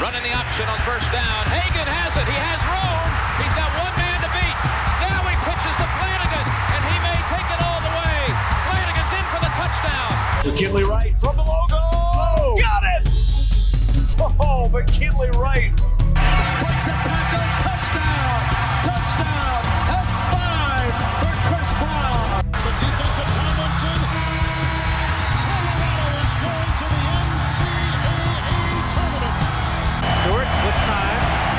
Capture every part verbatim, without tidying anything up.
Running the option on first down. Hagan has it. He has room. He's got one man to beat. Now he pitches to Flanagan, and he may take it all the way. Flanagan's in for the touchdown. McKinley Wright from the logo. Oh, got it! Oh, McKinley Wright. Breaks a tackle. Touchdown. Touchdown. That's five for Chris Brown. The defensive Tomlinson. Colorado is going to the N C double A tournament. Stewart with time.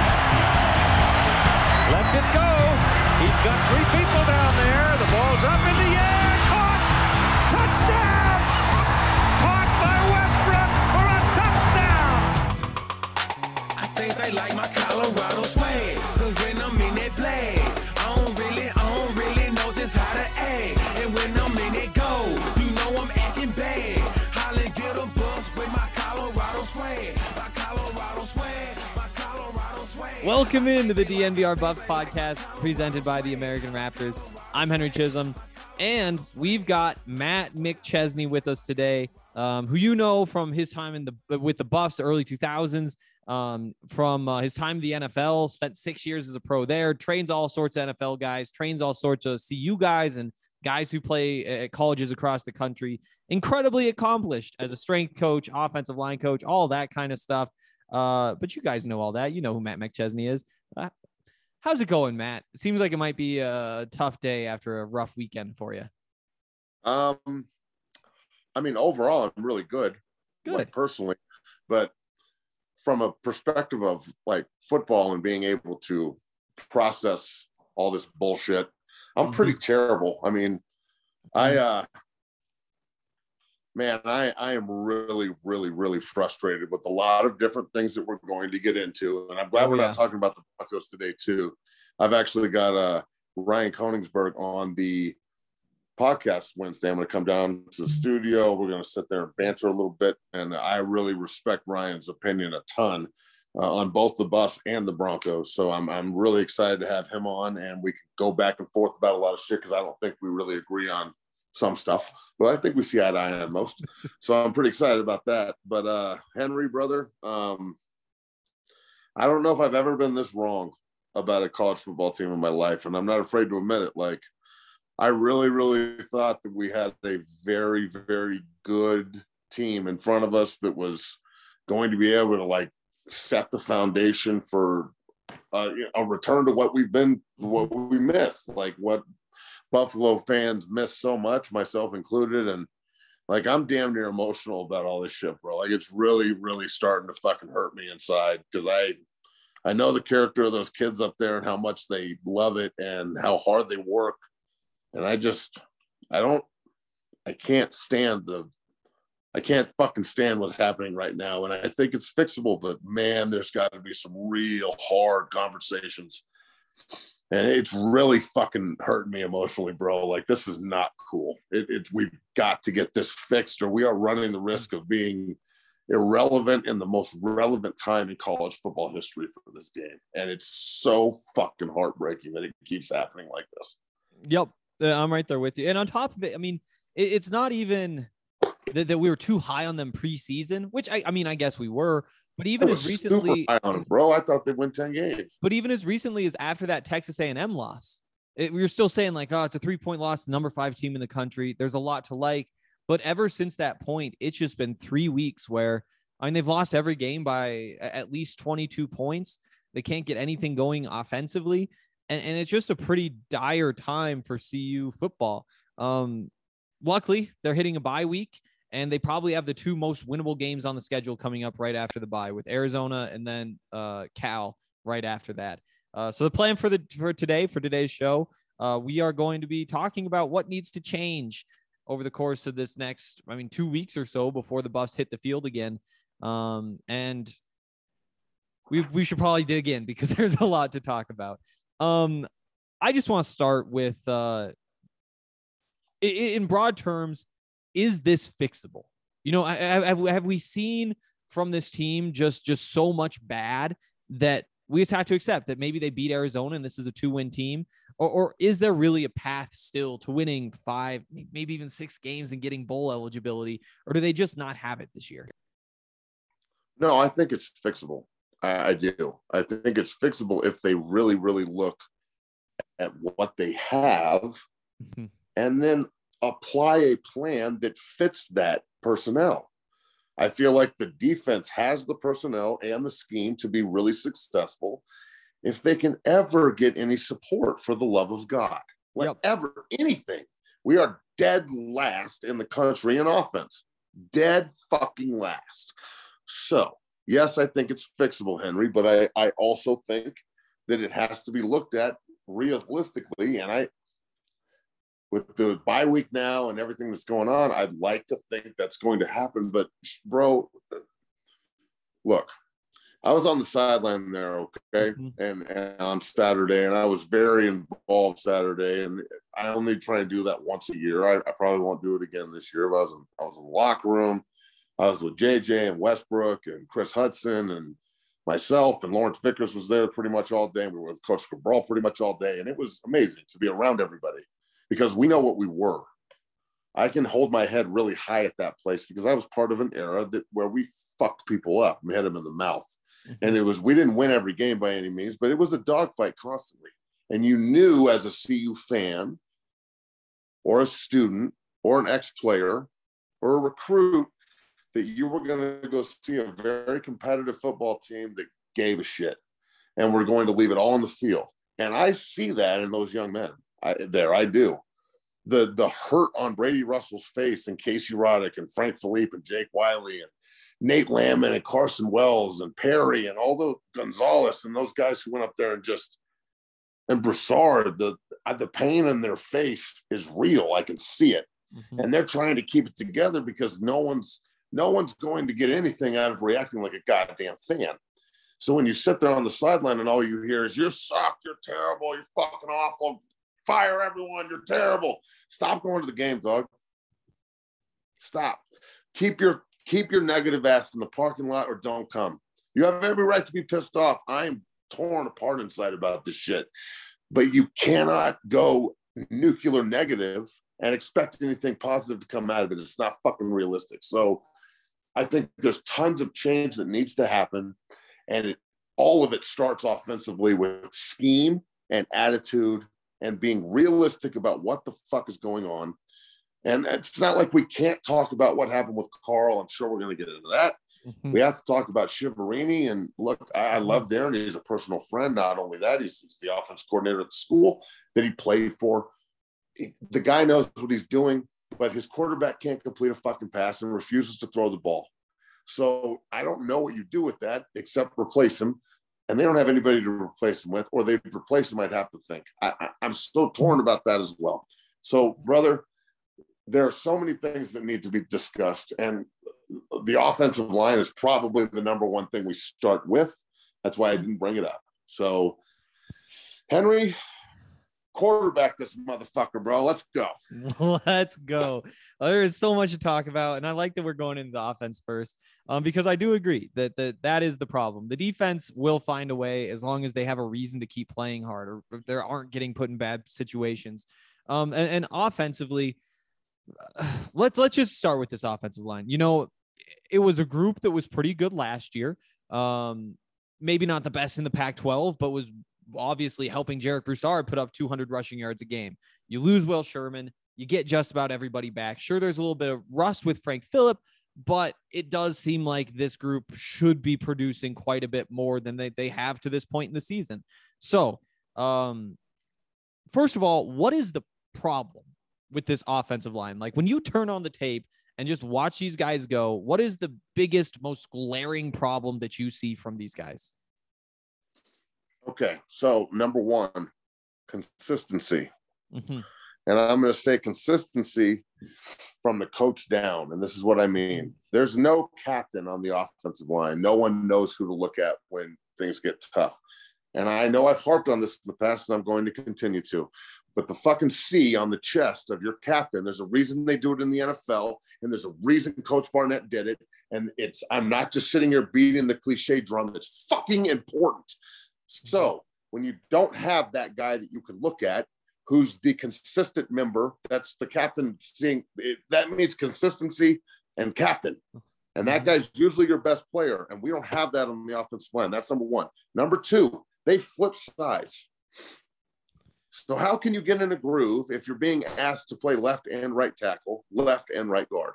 Lets it go. He's got three people down there. The ball's up in the air. Caught. Touchdown. Caught by Westbrook for a touchdown. I think they like my Colorado swag. Cause when I'm in that play, I don't really, I don't really know just how to act. And when I'm in it go, you know I'm acting bad. Holly get a bus with my Colorado swag. My Colorado swag. My Colorado swag. Welcome into the D N V R Buffs podcast presented by the American Raptors. I'm Henry Chisholm, and we've got Matt McChesney with us today, um, who you know from his time in the with the Buffs, the early two thousands, um, from uh, his time in the N F L, spent six years as a pro there, trains all sorts of N F L guys, trains all sorts of C U guys and guys who play at colleges across the country. Incredibly accomplished as a strength coach, offensive line coach, all that kind of stuff. Uh, but you guys know all that. You know who Matt McChesney is. Uh, how's it going, Matt? It seems like it might be a tough day after a rough weekend for you. Um, I mean, overall, I'm really good, Good. like, personally, but from a perspective of like football and being able to process all this bullshit, I'm pretty Mhm. terrible. I mean, I, uh, man, I, I am really, really, really frustrated with a lot of different things that we're going to get into. And I'm glad Oh, we're yeah. not talking about the Broncos today too. I've actually got uh, Ryan Koenigsberg on the podcast Wednesday. I'm going to come down to the studio. We're going to sit there and banter a little bit. And I really respect Ryan's opinion a ton uh, on both the Buffs and the Broncos. So I'm, I'm really excited to have him on, and we can go back and forth about a lot of shit, because I don't think we really agree on some stuff, but I think we see eye to eye on most. So I'm pretty excited about that. But uh, Henry, brother, um, I don't know if I've ever been this wrong about a college football team in my life, and I'm not afraid to admit it. Like, I really, really thought that we had a very, very good team in front of us that was going to be able to like set the foundation for uh, a return to what we've been, what we missed, like what Buffalo fans miss so much, myself included. And like, I'm damn near emotional about all this shit, bro. Like, it's really, really starting to fucking hurt me inside, because I, I know the character of those kids up there and how much they love it and how hard they work. And I just, I don't, I can't stand the, I can't fucking stand what's happening right now. And I think it's fixable, but man, there's got to be some real hard conversations. And it's really fucking hurting me emotionally, bro. Like, this is not cool. It, it's, we've got to get this fixed, or we are running the risk of being irrelevant in the most relevant time in college football history for this game. And it's so fucking heartbreaking that it keeps happening like this. Yep. Uh, I'm right there with you. And on top of it, I mean, it, it's not even that, that we were too high on them preseason, which I, I mean, I guess we were. But even I as was recently, super high on it, bro. I thought they'd win ten games. but even as recently as after that Texas A and M loss, it, we were still saying like, oh, it's a three point loss, number five team in the country. There's a lot to like. But ever since that point, it's just been three weeks where, I mean, they've lost every game by at least twenty-two points. They can't get anything going offensively. And, and it's just a pretty dire time for C U football. Um, luckily, they're hitting a bye week, and they probably have the two most winnable games on the schedule coming up right after the bye, with Arizona and then uh, Cal right after that. Uh, so the plan for the for today, for today's show, uh, we are going to be talking about what needs to change over the course of this next, I mean, two weeks or so before the Buffs hit the field again. Um, and we we should probably dig in, because there's a lot to talk about. Um, I just want to start with, uh, in broad terms, is this fixable? You know, have, have we seen from this team just, just so much bad that we just have to accept that maybe they beat Arizona and this is a two-win team? Or, or is there really a path still to winning five, maybe even six games and getting bowl eligibility? Or do they just not have it this year? No, I think it's fixable. I, I do. I think it's fixable if they really, really look at what they have mm-hmm. and then apply a plan that fits that personnel. I feel like the defense has the personnel and the scheme to be really successful if they can ever get any support, for the love of God. Whatever, yep. anything. We are dead last in the country in offense. Dead fucking last. So, yes, I think it's fixable, Henry, but I, I also think that it has to be looked at realistically. And I, with the bye week now and everything that's going on, I'd like to think that's going to happen. But, bro, look, I was on the sideline there, okay, mm-hmm. and, and on Saturday, and I was very involved Saturday, and I only try to do that once a year. I, I probably won't do it again this year. But I was in, I was in the locker room. I was with J J and Westbrook and Chris Hudson and myself, and Lawrence Vickers was there pretty much all day. We were with Coach Cabral pretty much all day, and it was amazing to be around everybody because we know what we were. I can hold my head really high at that place because I was part of an era that where we fucked people up. We had them in the mouth. And it was, we didn't win every game by any means, but it was a dogfight constantly. And you knew as a C U fan or a student or an ex-player or a recruit that you were going to go see a very competitive football team that gave a shit and we're going to leave it all on the field. And I see that in those young men I, there. I do. The the hurt on Brady Russell's face and Casey Roddick and Frank Philippe and Jake Wiley and Nate Lamon and Carson Wells and Perry and all the Gonzalez and those guys who went up there and just, and Broussard, the, the pain in their face is real. I can see it. Mm-hmm. And they're trying to keep it together because no one's, no one's going to get anything out of reacting like a goddamn fan. So when you sit there on the sideline and all you hear is, you suck, you're terrible, you're fucking awful, fire everyone, you're terrible. Stop going to the game, dog. Stop. Keep your keep your negative ass in the parking lot or don't come. You have every right to be pissed off. I'm torn apart inside about this shit. But you cannot go nuclear negative and expect anything positive to come out of it. It's not fucking realistic. So I think there's tons of change that needs to happen. And it, all of it starts offensively with scheme and attitude and being realistic about what the fuck is going on. And it's not like we can't talk about what happened with Carl. I'm sure we're going to get into that. Mm-hmm. We have to talk about Shiverini. And look, I, I love Darren. He's a personal friend. Not only that, he's, he's the offense coordinator at the school that he played for. He, the guy knows what he's doing, but his quarterback can't complete a fucking pass and refuses to throw the ball. So I don't know what you do with that except replace him. And they don't have anybody to replace him with, or they'd replace him, I'd have to think. I, I, I'm so torn about that as well. So, brother, there are so many things that need to be discussed. And the offensive line is probably the number one thing we start with. That's why I didn't bring it up. So, Henry, quarterback this motherfucker, bro. Let's go. Let's go. Well, there is so much to talk about, and I like that we're going into the offense first, um, because I do agree that, that that is the problem. The defense will find a way as long as they have a reason to keep playing hard or if they aren't getting put in bad situations. Um, and, and offensively, let's let's just start with this offensive line. You know, it was a group that was pretty good last year. Um, maybe not the best in the Pac twelve, but was obviously helping Jarek Broussard put up two hundred rushing yards a game. You lose Will Sherman, you get just about everybody back. Sure, there's a little bit of rust with Frank Phillip, but it does seem like this group should be producing quite a bit more than they, they have to this point in the season. So, um, first of all, what is the problem with this offensive line? Like when you turn on the tape and just watch these guys go, what is the biggest, most glaring problem that you see from these guys? Okay, so number one, consistency. Mm-hmm. And I'm going to say consistency from the coach down. And this is what I mean. There's no captain on the offensive line. No one knows who to look at when things get tough. And I know I've harped on this in the past, and I'm going to continue to. But the fucking C on the chest of your captain, there's a reason they do it in the N F L, and there's a reason Coach Barnett did it. And it's, I'm not just sitting here beating the cliche drum. It's fucking important. So when you don't have that guy that you can look at, who's the consistent member, that's the captain seeing it, that means consistency and captain. And that guy's usually your best player. And we don't have that on the offensive line. That's number one. Number two, they flip sides. So how can you get in a groove if you're being asked to play left and right tackle, left and right guard?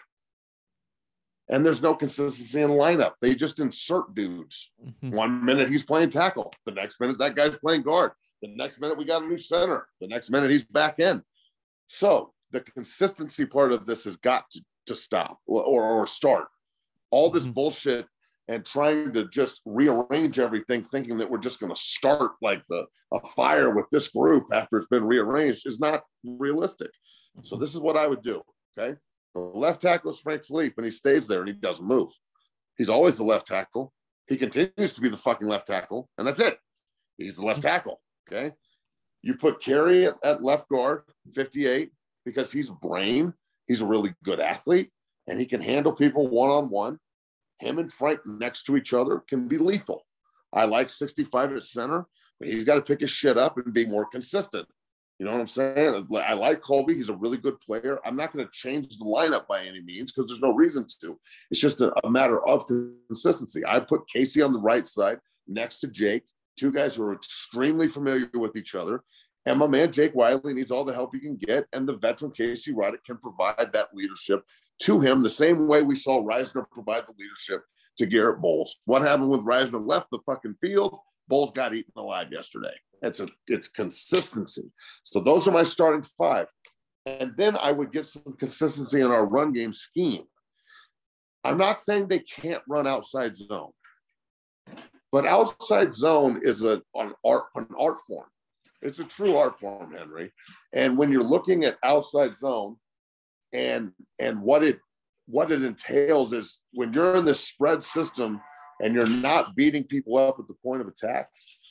And there's no consistency in the lineup. They just insert dudes. Mm-hmm. One minute he's playing tackle. The next minute that guy's playing guard. The next minute we got a new center. The next minute he's back in. So the consistency part of this has got to, to stop or, or start. All this mm-hmm. bullshit and trying to just rearrange everything, thinking that we're just going to start like the a fire with this group after it's been rearranged is not realistic. So this is what I would do, okay? The left tackle is Frank Felipe, and he stays there, and he doesn't move. He's always the left tackle. He continues to be the fucking left tackle, and that's it. He's the left tackle, okay? You put Carey at, at left guard, fifty-eight, because he's brain. He's a really good athlete, and he can handle people one-on-one. Him and Frank next to each other can be lethal. I like sixty-five at center, but he's got to pick his shit up and be more consistent. You know what I'm saying? I like Colby. He's a really good player. I'm not going to change the lineup by any means because there's no reason to. It's just a, a matter of consistency. I put Casey on the right side next to Jake, two guys who are extremely familiar with each other. And my man Jake Wiley needs all the help he can get. And the veteran Casey Roddick can provide that leadership to him the same way we saw Reisner provide the leadership to Garrett Bowles. What happened when Reisner left the fucking field? Bowles got eaten alive yesterday. It's a it's consistency. So those are my starting five. And then I would get some consistency in our run game scheme. I'm not saying they can't run outside zone, but outside zone is a, an art an art form. It's a true art form, Henry. And when you're looking at outside zone, and and what it what it entails is when you're in this spread system and you're not beating people up at the point of attack,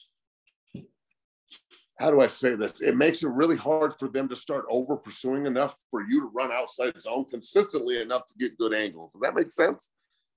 how do I say this? It makes it really hard for them to start over pursuing enough for you to run outside zone consistently enough to get good angles. Does that make sense?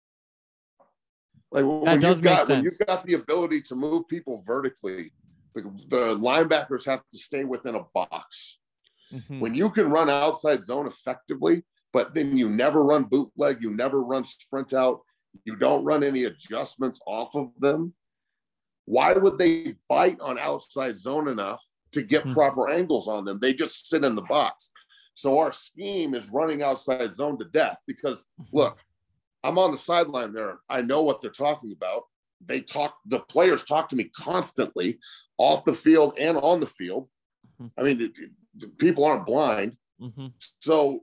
Like when that does you've got, make sense. When you've got the ability to move people vertically, the, the linebackers have to stay within a box. Mm-hmm. When you can run outside zone effectively, but then you never run bootleg, you never run sprint out, you don't run any adjustments off of them, why would they bite on outside zone enough to get mm-hmm. proper angles on them? They just sit in the box. So our scheme is running outside zone to death because, look, I'm on the sideline there. I know what they're talking about. They talk, the players talk to me constantly off the field and on the field. Mm-hmm. I mean, it, it, people aren't blind. Mm-hmm. So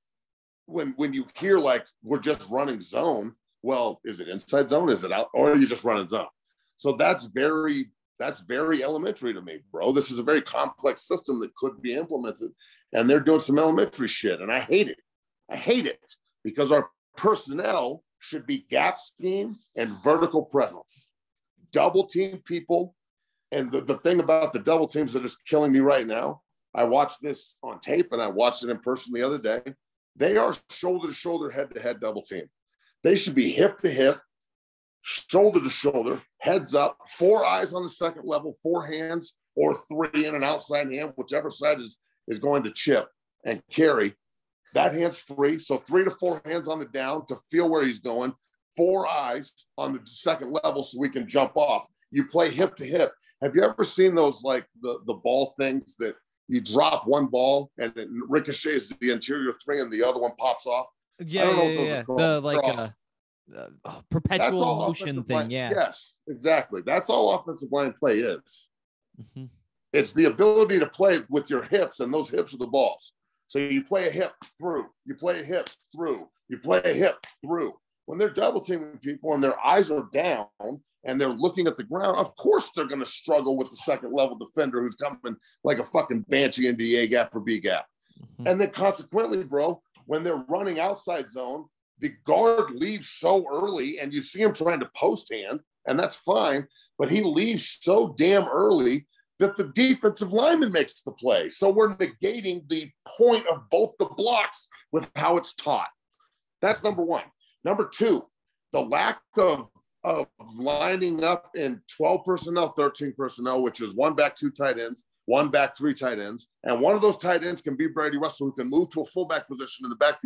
when when you hear like we're just running zone, well, is it inside zone? Is it out? Or are you just running zone? So that's very that's very elementary to me, bro. This is a very complex system that could be implemented, and they're doing some elementary shit, and I hate it. I hate it because our personnel should be gap scheme and vertical presence. Double team people, and the, the thing about the double teams that is killing me right now, I watched this on tape and I watched it in person the other day. They are shoulder to shoulder, head to head double team. They should be hip to hip, shoulder to shoulder, heads up, four eyes on the second level, four hands or three in an outside hand, whichever side is, is going to chip and carry. That hand's free. So three to four hands on the down to feel where he's going, four eyes on the second level so we can jump off. You play hip to hip. Have you ever seen those, like the, the ball things that you drop one ball and it ricochets the interior three and the other one pops off? Yeah, I don't know yeah, what those yeah. are called. The like uh, uh, oh, perpetual motion thing. Line. Yeah. Yes, exactly. That's all offensive line play is. Mm-hmm. It's the ability to play with your hips, and those hips are the balls. So you play a hip through, you play a hip through, you play a hip through. When they're double teaming people and their eyes are down and they're looking at the ground, of course they're going to struggle with the second level defender who's coming like a fucking banshee into the A gap or B gap. Mm-hmm. And then consequently, bro, when they're running outside zone, the guard leaves so early and you see him trying to post hand, and that's fine, but he leaves so damn early that the defensive lineman makes the play. So we're negating the point of both the blocks with how it's taught. That's number one. Number two, the lack of, of lining up in twelve personnel, thirteen personnel, which is one back, two tight ends, one back, three tight ends. And one of those tight ends can be Brady Russell, who can move to a fullback position in the backfield.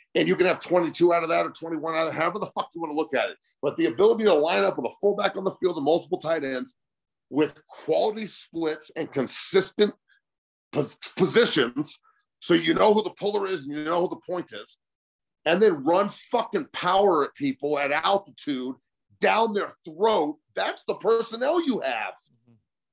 And you can have twenty-two out of that or twenty-one out of that, however the fuck you want to look at it. But the ability to line up with a fullback on the field and multiple tight ends with quality splits and consistent pos- positions, so you know who the puller is and you know who the point is, and then run fucking power at people at altitude down their throat, that's the personnel you have. Mm-hmm.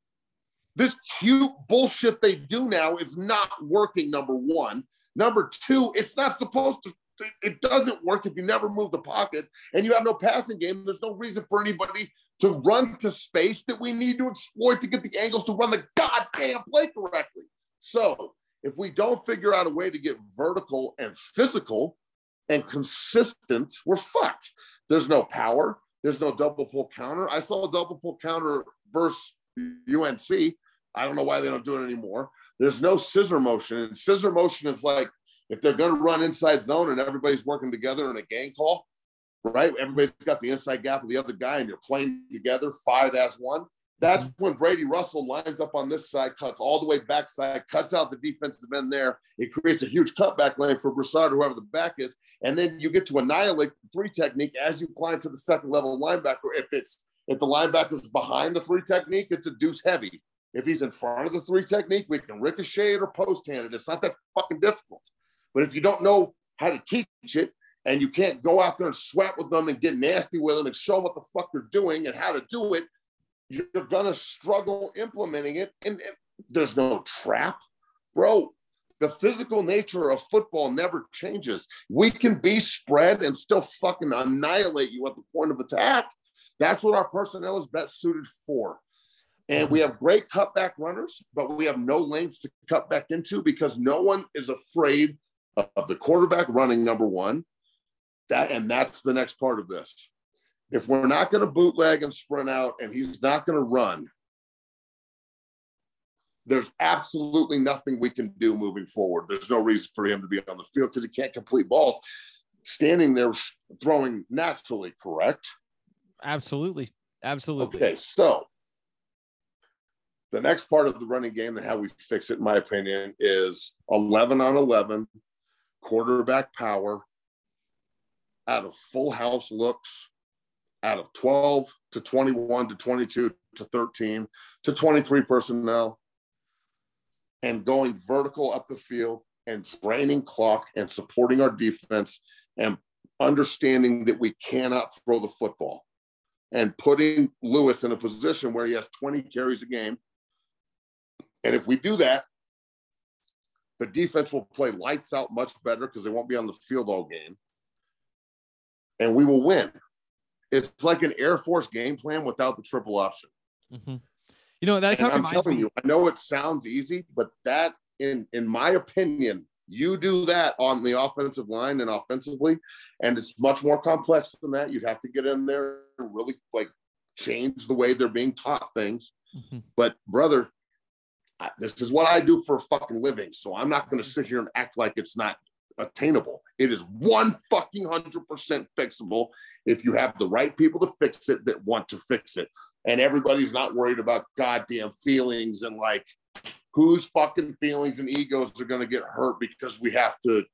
This cute bullshit they do now is not working, number one. Number two, it's not supposed to, it doesn't work if you never move the pocket and you have no passing game. There's no reason for anybody to run to space that we need to exploit to get the angles to run the goddamn play correctly. So if we don't figure out a way to get vertical and physical and consistent, we're fucked. There's no power. There's no double pull counter. I saw a double pull counter versus U N C. I don't know why they don't do it anymore. There's no scissor motion. And scissor motion is like if they're going to run inside zone and everybody's working together in a gang call, right? Everybody's got the inside gap of the other guy and you're playing together five as one. That's when Brady Russell lines up on this side, cuts all the way backside, cuts out the defensive end there. It creates a huge cutback lane for Broussard, whoever the back is. And then you get to annihilate the three technique as you climb to the second level linebacker. If it's if the linebacker's behind the three technique, it's a deuce heavy. If he's in front of the three technique, we can ricochet it or post hand it. It's not that fucking difficult. But if you don't know how to teach it and you can't go out there and sweat with them and get nasty with them and show them what the fuck they're doing and how to do it, you're going to struggle implementing it. And, and there's no trap. Bro, the physical nature of football never changes. We can be spread and still fucking annihilate you at the point of attack. That's what our personnel is best suited for. And we have great cutback runners, but we have no lanes to cut back into because no one is afraid of the quarterback running, number one. That, and that's the next part of this. If we're not going to bootleg and sprint out and he's not going to run, there's absolutely nothing we can do moving forward. There's no reason for him to be on the field because he can't complete balls standing there throwing naturally, correct? Absolutely. Absolutely. Okay, so the next part of the running game and how we fix it, in my opinion, is eleven on eleven, quarterback power, out of full house looks, out of twelve to twenty-one to twenty-two to thirteen to twenty-three personnel, and going vertical up the field and draining clock and supporting our defense and understanding that we cannot throw the football and putting Lewis in a position where he has twenty carries a game. And if we do that, the defense will play lights out much better because they won't be on the field all game. And we will win. It's like an Air Force game plan without the triple option. Mm-hmm. You know, that kind of I'm telling me. you, I know it sounds easy, but that, in, in my opinion, you do that on the offensive line and offensively, and it's much more complex than that. You'd have to get in there and really, like, change the way they're being taught things. Mm-hmm. But, brother, I, this is what I do for a fucking living, so I'm not going to sit here and act like it's not attainable. It is one fucking hundred percent fixable if you have the right people to fix it that want to fix it. And everybody's not worried about goddamn feelings and like whose fucking feelings and egos are going to get hurt because we have to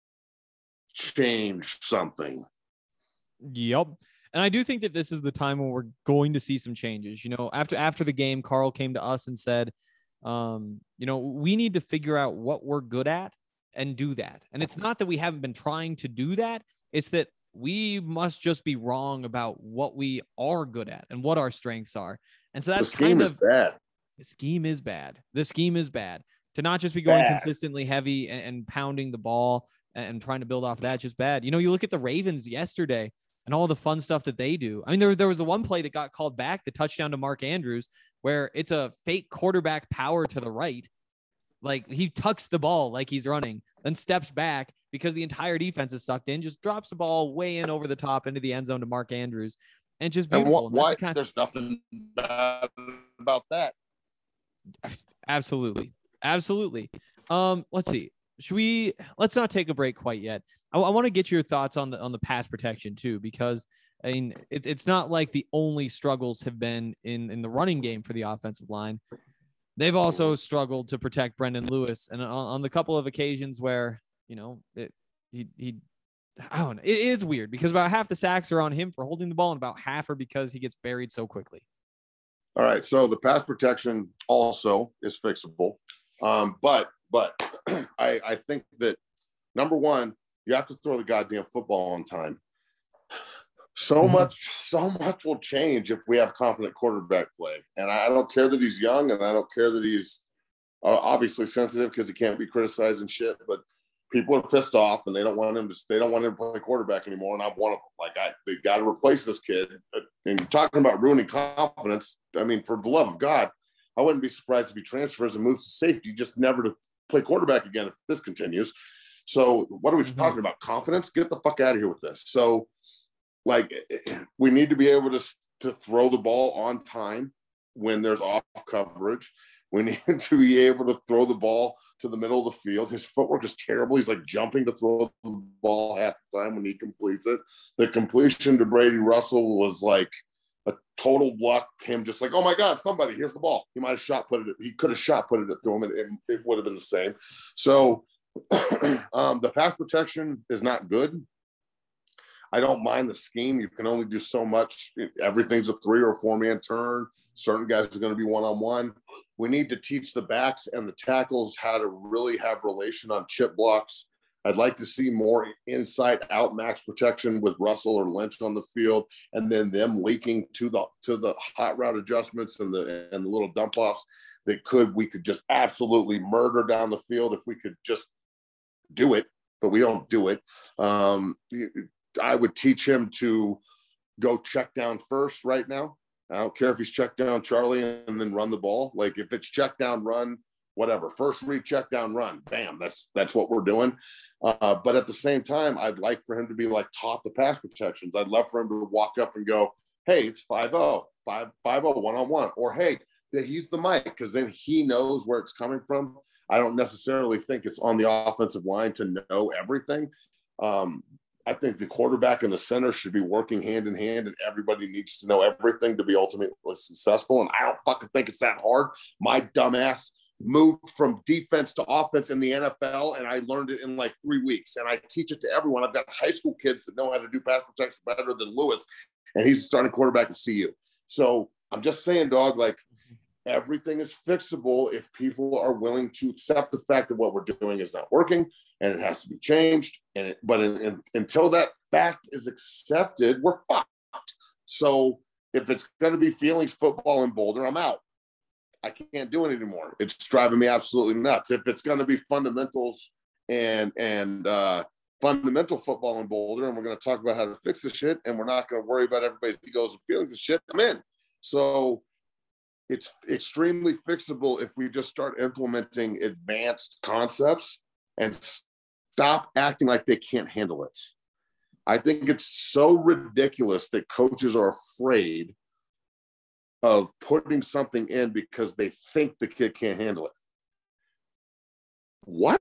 change something. Yep. And I do think that this is the time when we're going to see some changes. You know, after after the game, Carl came to us and said, um, you know, we need to figure out what we're good at and do that. And it's not that we haven't been trying to do that. It's that we must just be wrong about what we are good at and what our strengths are. And so that's the scheme kind of is bad. The scheme is bad. The scheme is bad. To not just be going bad. consistently heavy and, and pounding the ball and, and trying to build off that, just bad. You know, you look at the Ravens yesterday and all the fun stuff that they do. I mean, there, there was the one play that got called back, the touchdown to Mark Andrews, where it's a fake quarterback power to the right. Like he tucks the ball like he's running, then steps back because the entire defense is sucked in, just drops the ball way in over the top into the end zone to Mark Andrews. And just beautiful. And wh- why, the kind of... there's nothing bad about that. Absolutely. Absolutely. Um, let's see. Should we, let's not take a break quite yet. I, I want to get your thoughts on the, on the pass protection too, because I mean, it, it's not like the only struggles have been in, in the running game for the offensive line. They've also struggled to protect Brendan Lewis. And on, on the couple of occasions where, you know, it, he, he I don't know. It is weird because about half the sacks are on him for holding the ball and about half are because he gets buried so quickly. All right. So the pass protection also is fixable. Um, but, but I, I think that number one, you have to throw the goddamn football on time. So Mm-hmm. much, so much will change if we have competent quarterback play. And I don't care that he's young and I don't care that he's uh, obviously sensitive because he can't be criticized and shit, but people are pissed off and they don't want him to, they don't want him to play quarterback anymore. And I'm one of them. Like I, they got to replace this kid. And you're talking about ruining confidence. I mean, for the love of God, I wouldn't be surprised if he transfers and moves to safety, just never to play quarterback again if this continues. So what are we mm-hmm. talking about? Confidence? Get the fuck out of here with this. So like we need to be able to, to throw the ball on time when there's off coverage. We need to be able to throw the ball to the middle of the field. His footwork is terrible. He's like jumping to throw the ball half the time when he completes it. The completion to Brady Russell was like a total luck. Him just like, oh my God, somebody, here's the ball. He might have shot put it. He could have shot put it to him and it, it would have been the same. So um, the pass protection is not good. I don't mind the scheme. You can only do so much. Everything's a three or four man turn. Certain guys are going to be one-on-one. We need to teach the backs and the tackles how to really have relation on chip blocks. I'd like to see more inside out max protection with Russell or Lynch on the field, and then them leaking to the to the hot route adjustments and the and the little dump offs that could we could just absolutely murder down the field if we could just do it, but we don't do it. Um, I would teach him to go check down first right now. I don't care if he's check down Charlie and then run the ball. Like if it's check down, run, whatever. First read, check down, run. Bam. That's that's what we're doing. Uh, but at the same time, I'd like for him to be like top the pass protections. I'd love for him to walk up and go, hey, it's five oh, five oh, one-on-one. Or hey, he's the Mike, because then he knows where it's coming from. I don't necessarily think it's on the offensive line to know everything. Um, I think the quarterback and the center should be working hand in hand, and everybody needs to know everything to be ultimately successful. And I don't fucking think it's that hard. My dumbass moved from defense to offense in the N F L, and I learned it in like three weeks. And I teach it to everyone. I've got high school kids that know how to do pass protection better than Lewis, and he's a starting quarterback at C U. So I'm just saying, dog, like everything is fixable if people are willing to accept the fact that what we're doing is not working and it has to be changed. And it, but in, in, until that fact is accepted, we're fucked. So if it's going to be feelings football in Boulder, I'm out. I can't do it anymore. It's driving me absolutely nuts. If it's going to be fundamentals and and uh, fundamental football in Boulder, and we're going to talk about how to fix the shit, and we're not going to worry about everybody's egos and feelings and shit, I'm in. So it's extremely fixable if we just start implementing advanced concepts and stop acting like they can't handle it. I think it's so ridiculous that coaches are afraid of putting something in because they think the kid can't handle it. What?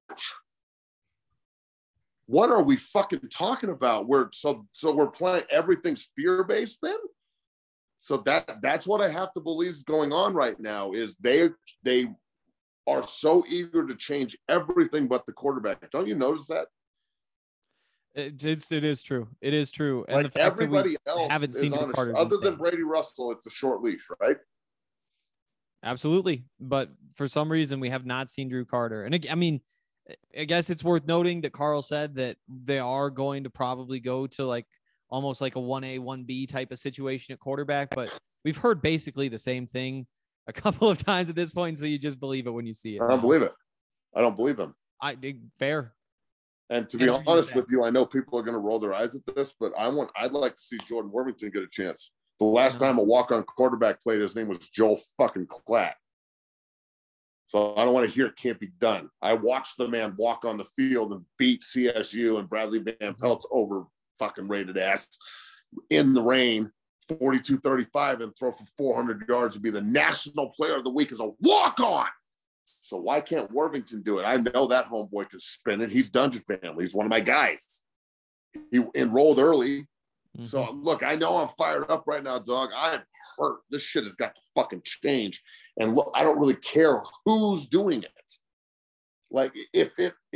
What are we fucking talking about? We're so so we're playing everything's fear-based then? So that that's what I have to believe is going on right now is they they are so eager to change everything but the quarterback. Don't you notice that? It, it's, it is true. It is true. And like the fact everybody that we else haven't seen on Carter, a, other than Brady Russell, it's a short leash, right? Absolutely. But for some reason, we have not seen Drew Carter. And I mean, I guess it's worth noting that Carl said that they are going to probably go to like almost like a one A, one B type of situation at quarterback. But we've heard basically the same thing a couple of times at this point. So you just believe it when you see it. I don't now. believe it. I don't believe them. I fair. And to be and honest with you, I know people are going to roll their eyes at this, but I want, I'd like to see Jordan Worthington get a chance. The last time a walk-on quarterback played, his name was Joel fucking Klatt. So I don't want to hear it can't be done. I watched the man walk on the field and beat C S U and Bradley Van Pelt's over fucking rated ass in the rain, forty-two thirty-five, and throw for four hundred yards and be the national player of the week as a walk-on. So why can't Worthington do it? I know that homeboy can spin it. He's Dungeon Family. He's one of my guys. He enrolled early. Mm-hmm. So look, I know I'm fired up right now, dog. I'm hurt. This shit has got to fucking change. And look, I don't really care who's doing it. Like if it if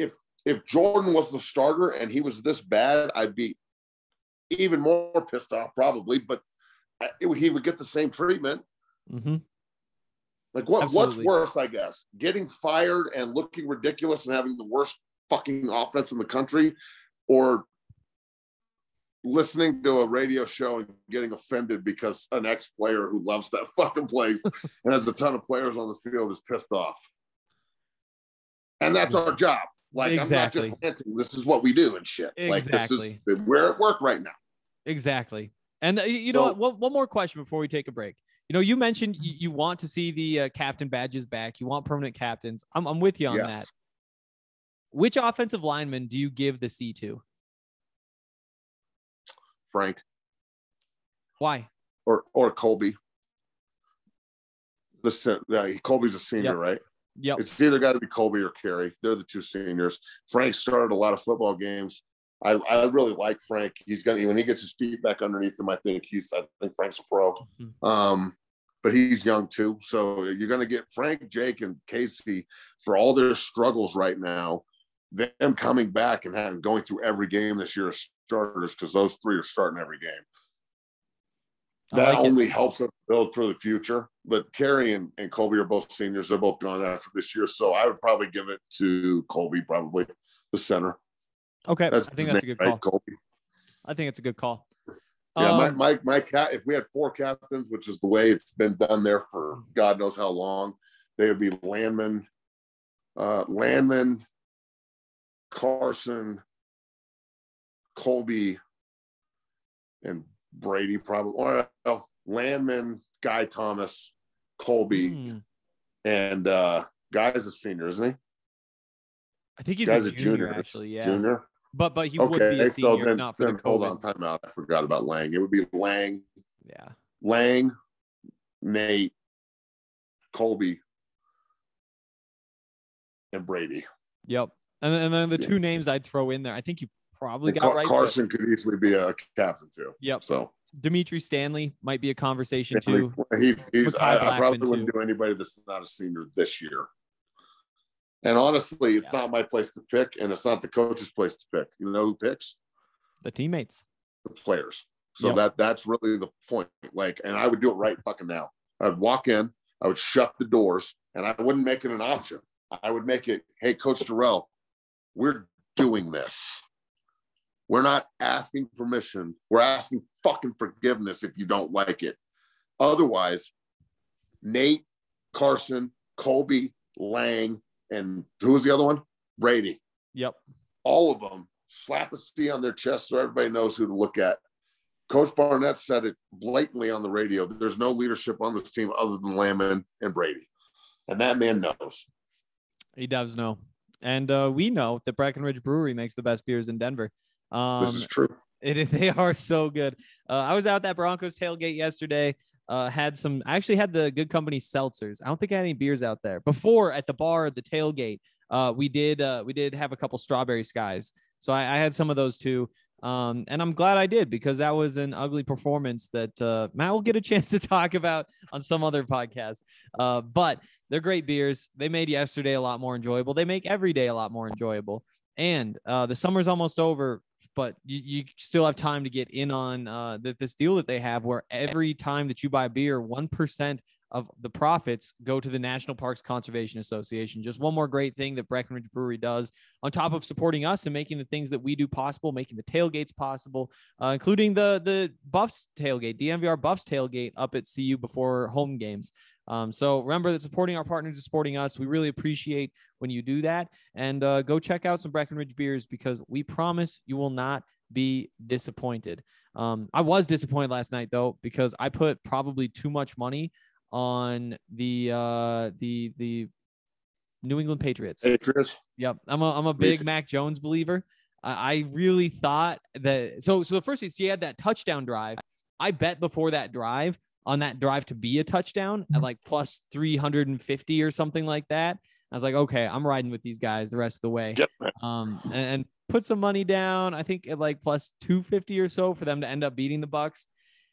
if Jordan was the starter and he was this bad, I'd be even more pissed off probably, but it, he would get the same treatment. Mm-hmm. Like what, Absolutely. what's worse, I guess, getting fired and looking ridiculous and having the worst fucking offense in the country, or listening to a radio show and getting offended because an ex-player who loves that fucking place and has a ton of players on the field is pissed off. And that's our job. Like, Exactly. I'm not just ranting. This is what we do and shit. Like, Exactly. this is, we're at work right now. Exactly. And uh, you, you know So- what? One, one more question before we take a break. You know, you mentioned you, you want to see the uh, captain badges back. You want permanent captains. I'm, I'm with you on Yes. that. Which offensive lineman do you give the C to? Frank Why? or or Colby. The sen- yeah, Colby's a senior, Yep. right? Yep. It's either got to be Colby or Carey. They're the two seniors. Frank started a lot of football games. I, I really like Frank. He's gonna when he gets his feet back underneath him. I think he's. I think Frank's a pro. Mhm. Um, but he's young too. So you're gonna get Frank, Jake, and Casey for all their struggles right now. Them coming back and having going through every game this year as starters, because those three are starting every game. I That like it. only helps us build for the future. But Carey and, and Colby are both seniors. They're both gone after this year. So I would probably give it to Colby, probably the center. Okay. That's I think his that's a name, good call. right? Colby. I think it's a good call. Yeah, my, Um, my my cat. If we had four captains, which is the way it's been done there for God knows how long, they would be Landman, uh, Landman, Carson, Colby, and Brady. Probably well, Landman, Guy Thomas, Colby, hmm, and uh, Guy's a senior, isn't he? I think he's Guy's a a junior, junior. actually. Yeah. Junior. But but he would be Okay, a so senior if then, not for the then hold on, COVID. time out. I forgot about Lang. It would be Lang, Yeah. Lang, Nate, Colby, and Brady. Yep. And then, and then the Yeah. two names I'd throw in there, I think you probably And got Car- right. but- Carson could easily be a captain too. Yep. So Dimitri Stanley might be a conversation too. he's, he's Makai I, I Blackman, probably wouldn't too. do anybody that's not a senior this year. And honestly, it's Yeah. not my place to pick, and it's not the coach's place to pick. You know who picks? The teammates. The players. So Yep. that that's really the point. Like, and I would do it right fucking now. I'd walk in, I would shut the doors, and I wouldn't make it an option. I would make it, hey, Coach Durrell, we're doing this. We're not asking permission. We're asking fucking forgiveness if you don't like it. Otherwise, Nate, Carson, Colby, Lang, and who was the other one? Brady. Yep. All of them slap a C on their chest so everybody knows who to look at. Coach Barnett said it blatantly on the radio. There's no leadership on this team other than Landman and Brady. And that man knows. He does know. And uh, we know that Breckenridge Brewery makes the best beers in Denver. Um, This is true. It, they are so good. Uh, I was out at Broncos tailgate yesterday. Uh, had some, I actually had the Good Company seltzers. I don't think I had any beers out there. Before at the bar at the tailgate, uh, we did uh, we did have a couple strawberry skies. So I, I had some of those too. Um, and I'm glad I did, because that was an ugly performance that uh, Matt will get a chance to talk about on some other podcast. Uh, but they're great beers. They made yesterday a lot more enjoyable. They make every day a lot more enjoyable. And uh, the summer's almost over, but you, you still have time to get in on uh, the, this deal that they have, where every time that you buy beer, one percent of the profits go to the National Parks Conservation Association. Just one more great thing that Breckenridge Brewery does, on top of supporting us and making the things that we do possible, making the tailgates possible, uh, including the the Buffs tailgate, D M V R Buffs tailgate up at C U before home games. Um, so remember that supporting our partners is supporting us. We really appreciate when you do that. And uh, go check out some Breckenridge beers, because we promise you will not be disappointed. Um, I was disappointed last night, though, because I put probably too much money on the uh, the the New England Patriots. Patriots. Yep, I'm a I'm a Me big too. Mac Jones believer. I, I really thought that. So so the first thing, he had that touchdown drive. I bet before that drive on that drive to be a touchdown at like plus three hundred fifty or something like that. I was like, okay, I'm riding with these guys the rest of the way. Yep. Um, and, and put some money down. I think at like plus two fifty or so for them to end up beating the Bucks.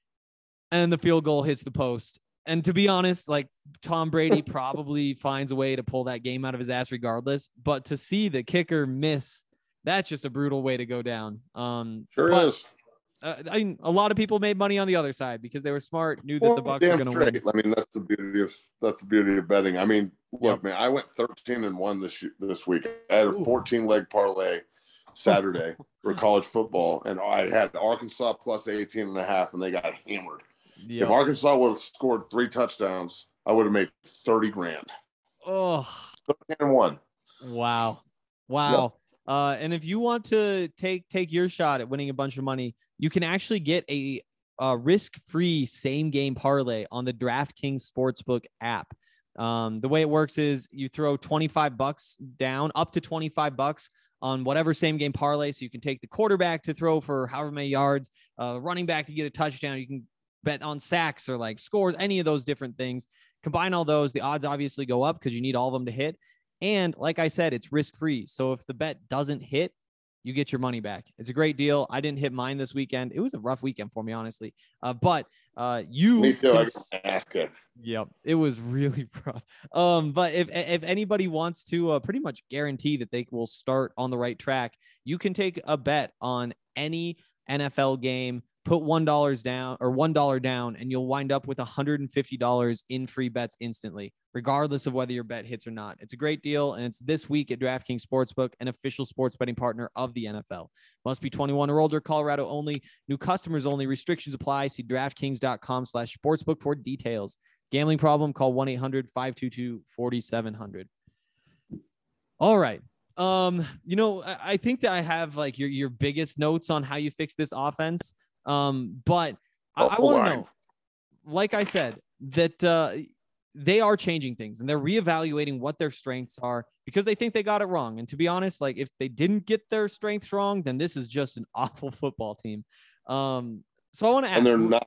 And the field goal hits the post. And to be honest, like Tom Brady probably finds a way to pull that game out of his ass regardless. But to see the kicker miss That's just a brutal way to go down. Um, Sure but, is. Uh, I mean, a lot of people made money on the other side because they were smart, knew that Well, the Bucks were damn going to win. straight. I mean, that's the beauty of that's the beauty of betting. I mean, look, Yep. man, I went thirteen and one this this week. I had a Ooh. fourteen leg parlay Saturday for college football, and I had Arkansas plus eighteen and a half, and they got hammered. Yep. If Arkansas would have scored three touchdowns, I would have made thirty grand. Oh, thirteen and one. wow. Wow. Uh, and if you want to take take your shot at winning a bunch of money, you can actually get a, a risk-free same-game parlay on the DraftKings Sportsbook app. Um, the way it works is you throw twenty-five bucks down, up to twenty-five bucks on whatever same-game parlay. So you can take the quarterback to throw for however many yards, uh, running back to get a touchdown. You can bet on sacks or like scores, any of those different things. Combine all those, the odds obviously go up because you need all of them to hit. And like I said, it's risk-free. So if the bet doesn't hit, you get your money back. It's a great deal. I didn't hit mine this weekend. It was a rough weekend for me, honestly. Uh, but uh, you Me too. can... I got my ass kicked. Yep, it was really rough. Um, but if if anybody wants to uh, pretty much guarantee that they will start on the right track, you can take a bet on any N F L game, put one dollar down or one dollar down, and you'll wind up with one hundred fifty dollars in free bets instantly, regardless of whether your bet hits or not. It's a great deal, and it's this week at DraftKings Sportsbook, an official sports betting partner of the N F L. Must be twenty-one or older, Colorado only, new customers only, restrictions apply. See DraftKings.com slash sportsbook for details. Gambling problem, call one eight hundred five two two four seven zero zero. All right. Um, you know, I, I think that I have like your, your biggest notes on how you fix this offense. Um, but I, I want to know, like I said, that uh, they are changing things and they're reevaluating what their strengths are because they think they got it wrong. And to be honest, like if they didn't get their strengths wrong, then this is just an awful football team. Um, so I want to ask, And they're not.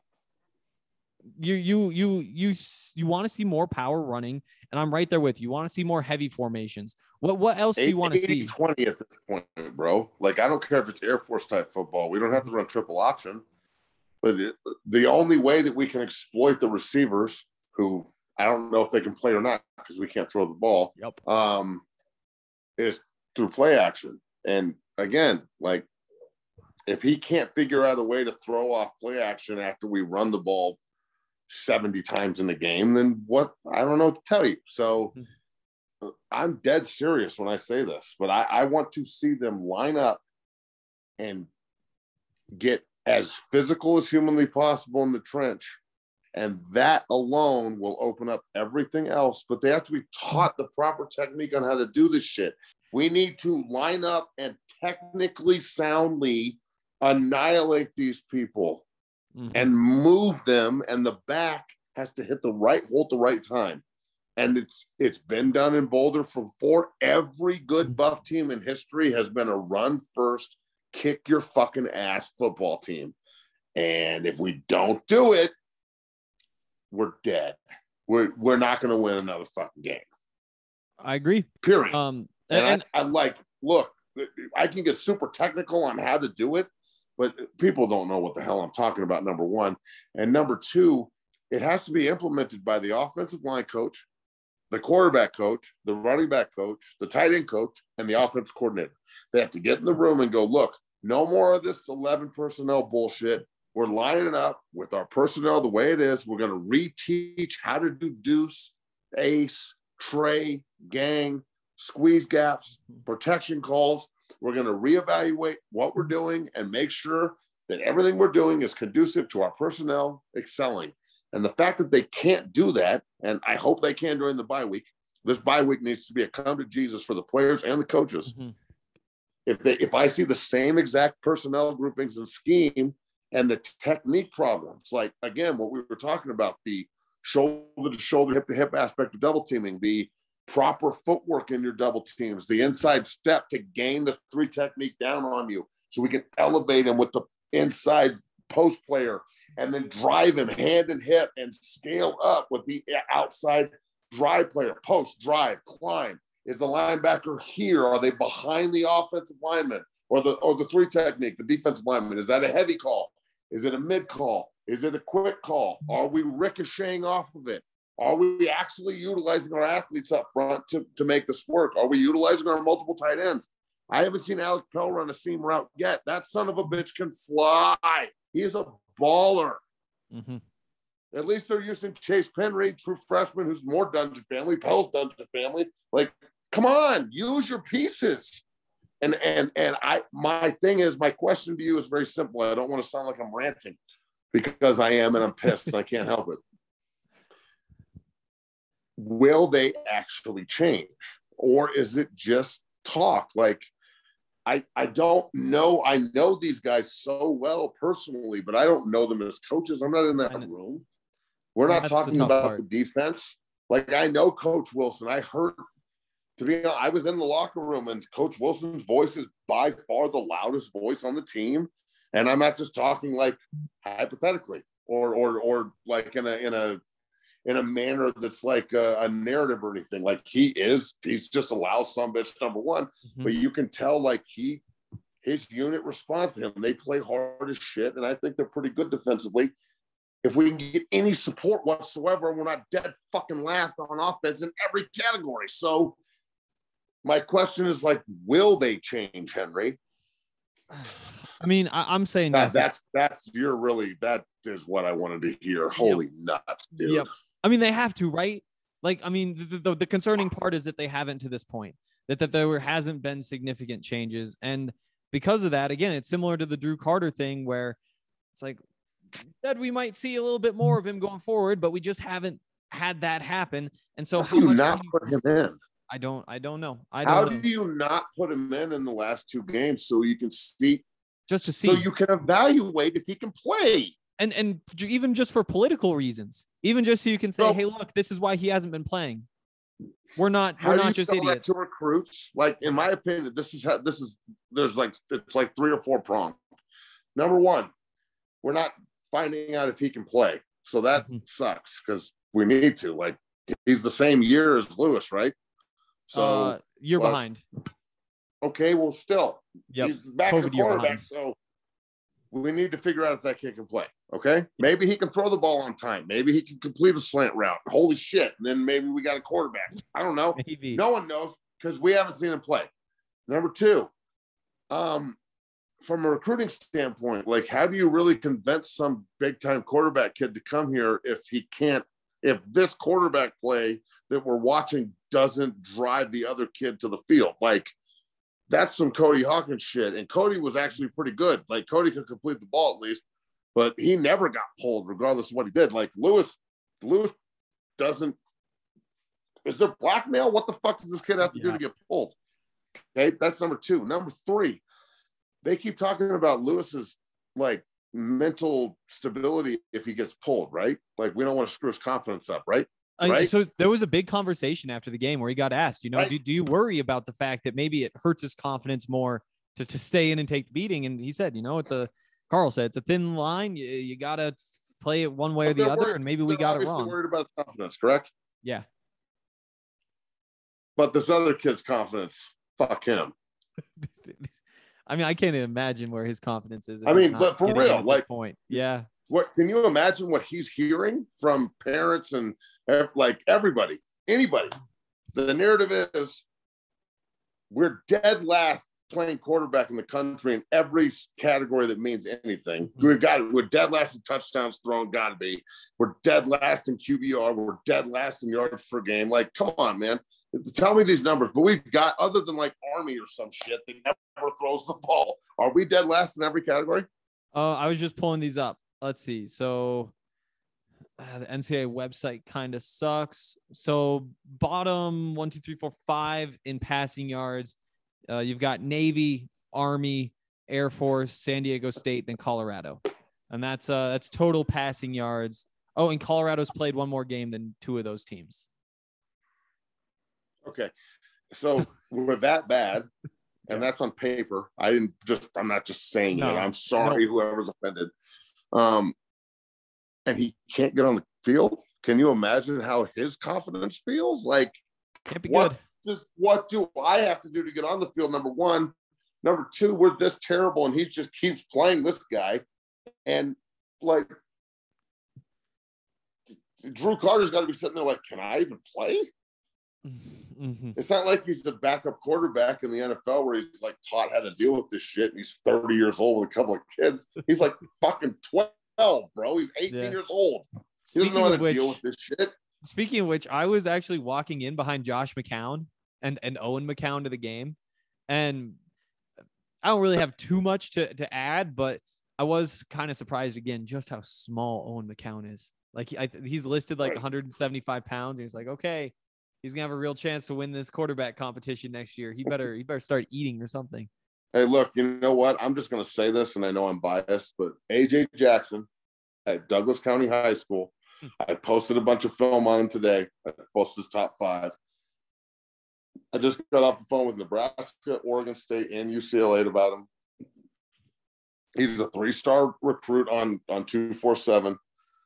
you, you, you, you, you want to see more power running, and I'm right there with you. You want to see more heavy formations. What, what else do you want to see? twenty at this point, bro. Like, I don't care if it's Air Force type football. We don't have to run triple option. But it, the only way that we can exploit the receivers, who I don't know if they can play or not because we can't throw the ball, Yep. um, is through play action. And again, like, if he can't figure out a way to throw off play action after we run the ball seventy times in the game, then what? I don't know what to tell you. So I'm dead serious when I say this, but I, I want to see them line up and get as physical as humanly possible in the trench. And that alone will open up everything else, but they have to be taught the proper technique on how to do this shit. We need to line up and technically soundly annihilate these people mm-hmm. and move them. And the back has to hit the right hole at the right time. And it's it's been done in Boulder from four. Every good Buff team in history has been a run first, kick your fucking ass football team. And if we don't do it, we're dead. We're we're not going to win another fucking game. I agree. Period. Um, and and I, I like, look, I can get super technical on how to do it, but people don't know what the hell I'm talking about, number one. And number two, it has to be implemented by the offensive line coach, the quarterback coach, the running back coach, the tight end coach, and the offensive coordinator. They have to get in the room and go, look, no more of this eleven personnel bullshit. We're lining up with our personnel the way it is. We're going to reteach how to do deuce, ace, tray, gang, squeeze gaps, protection calls. We're going to reevaluate what we're doing and make sure that everything we're doing is conducive to our personnel excelling. And the fact that they can't do that, and I hope they can during the bye week, this bye week needs to be a come to Jesus for the players and the coaches. Mm-hmm. If they, if I see the same exact personnel groupings and scheme and the technique problems, like, again, what we were talking about, the shoulder to shoulder, hip to hip aspect of double teaming, the proper footwork in your double teams, the inside step to gain the three technique down on you so we can elevate him with the inside post player and then drive him hand and hip and scale up with the outside drive player, post, drive, climb. Is the linebacker here? Are they behind the offensive lineman or the or the three technique, the defensive lineman? Is that a heavy call? Is it a mid call? Is it a quick call? Are we ricocheting off of it? Are we actually utilizing our athletes up front to, to make this work? Are we utilizing our multiple tight ends? I haven't seen Alec Pell run a seam route yet. That son of a bitch can fly. He is a baller. Mm-hmm. At least they're using Chase Penry, true freshman, who's more Dungeon family. Pell's Dungeon family. Like, come on, use your pieces. And and and I, my thing is, my question to you is very simple. I don't want to sound like I'm ranting because I am, and I'm pissed, and I can't help it. Will they actually change, or is it just talk? Like, I I don't know. I know these guys so well personally, but I don't know them as coaches. I'm not in that room. We're not That's talking the about part. the defense. Like, I know Coach Wilson. I heard, to be honest, I was in the locker room, and Coach Wilson's voice is by far the loudest voice on the team. And I'm not just talking like hypothetically or or or like in a in a in a manner that's like a, a narrative or anything. Like, he is, he's just a loud son bitch, number one. Mm-hmm. But you can tell, like, he his unit responds to him. They play hard as shit, and I think they're pretty good defensively. If we can get any support whatsoever, and we're not dead fucking last on offense in every category. So my question is, like, will they change, Henry? I mean, I, I'm saying that, yes. that's that's you're really that is what I wanted to hear. Holy yep. nuts, dude. Yep. I mean, they have to, right? Like, I mean, the, the, the concerning part is that they haven't to this point, that, that there hasn't been significant changes. And because of that, again, it's similar to the Drew Carter thing where it's like, that we might see a little bit more of him going forward, but we just haven't had that happen. And so how, how do you much not you, put him in? I don't, I don't know. I don't how know. do you not put him in in the last two games so you can see, just to see, so you can evaluate if he can play? And and even just for political reasons, even just so you can say, so, hey, look, this is why he hasn't been playing. We're not, how we're do not you just sell idiots. that to recruits? Like, in my opinion, this is how this is. There's like it's like three or four prongs. Number one, we're not finding out if he can play, so that mm-hmm. sucks because we need to. Like, he's the same year as Lewis, right? So uh, you're well, behind. Okay, well, still, yep. he's back COVID at quarterback, so we need to figure out if that kid can play. Okay, maybe he can throw the ball on time. Maybe he can complete a slant route. Holy shit! And then maybe we got a quarterback. I don't know. Maybe. No one knows because we haven't seen him play. Number two, um, from a recruiting standpoint, like, how do you really convince some big time quarterback kid to come here if he can't? If this quarterback play that we're watching doesn't drive the other kid to the field, like, that's some Cody Hawkins shit. And Cody was actually pretty good. Like, Cody could complete the ball at least, but he never got pulled regardless of what he did. Like, Lewis, Lewis doesn't, is there blackmail? What the fuck does this kid have to yeah. do to get pulled? Okay, that's number two. Number three, they keep talking about Lewis's, like, mental stability if he gets pulled, right? Like, we don't want to screw his confidence up, right? Uh, right? So there was a big conversation after the game where he got asked, you know, right. do, do you worry about the fact that maybe it hurts his confidence more to, to stay in and take the beating? And he said, you know, it's a, Carl said, it's a thin line. You, you got to play it one way but or the other. Worried, and maybe we got it wrong. Worried about his confidence, correct? Yeah. But this other kid's confidence, fuck him. I mean, I can't imagine where his confidence is. I mean, but for real, like, point. Yeah. What can you imagine what he's hearing from parents and like everybody, anybody? The narrative is we're dead last playing quarterback in the country in every category that means anything. Mm-hmm. We've got we're dead last in touchdowns thrown, gotta be. We're dead last in Q B R. We're dead last in yards per game. Like, come on, man. Tell me these numbers. But we've got, other than like Army or some shit that never throws the ball, are we dead last in every category? Uh, I was just pulling these up. Let's see. So uh, the N C double A website kind of sucks. So bottom one, two, three, four, five in passing yards. Uh, you've got Navy, Army, Air Force, San Diego State, then Colorado. And that's uh, that's total passing yards. Oh, and Colorado's played one more game than two of those teams. Okay. So we're that bad. And that's on paper. I didn't just, I'm not just saying no, it. I'm sorry, no. whoever's offended. Um, and he can't get on the field. Can you imagine how his confidence feels? Like, can't be what good. Does, what do I have to do to get on the field? Number one. Number two, we're this terrible, and he just keeps playing this guy. And, like, Drew Carter's got to be sitting there like, can I even play? Mm-hmm. It's not like he's the backup quarterback in the N F L where he's like taught how to deal with this shit. And he's thirty years old with a couple of kids. He's like fucking twelve, bro. He's eighteen yeah. years old. He doesn't know how to which, deal with this shit. Speaking of which, I was actually walking in behind Josh McCown and, and Owen McCown to the game. And I don't really have too much to, to add, but I was kind of surprised again just how small Owen McCown is. Like I, he's listed like one hundred seventy-five pounds. And he's like, okay, he's gonna have a real chance to win this quarterback competition next year. He better he better start eating or something. Hey, look, you know what? I'm just gonna say this, and I know I'm biased, but A J Jackson at Douglas County High School. Hmm. I posted a bunch of film on him today. I posted his top five. I just got off the phone with Nebraska, Oregon State, and U C L A about him. He's a three-star recruit on, on two forty-seven.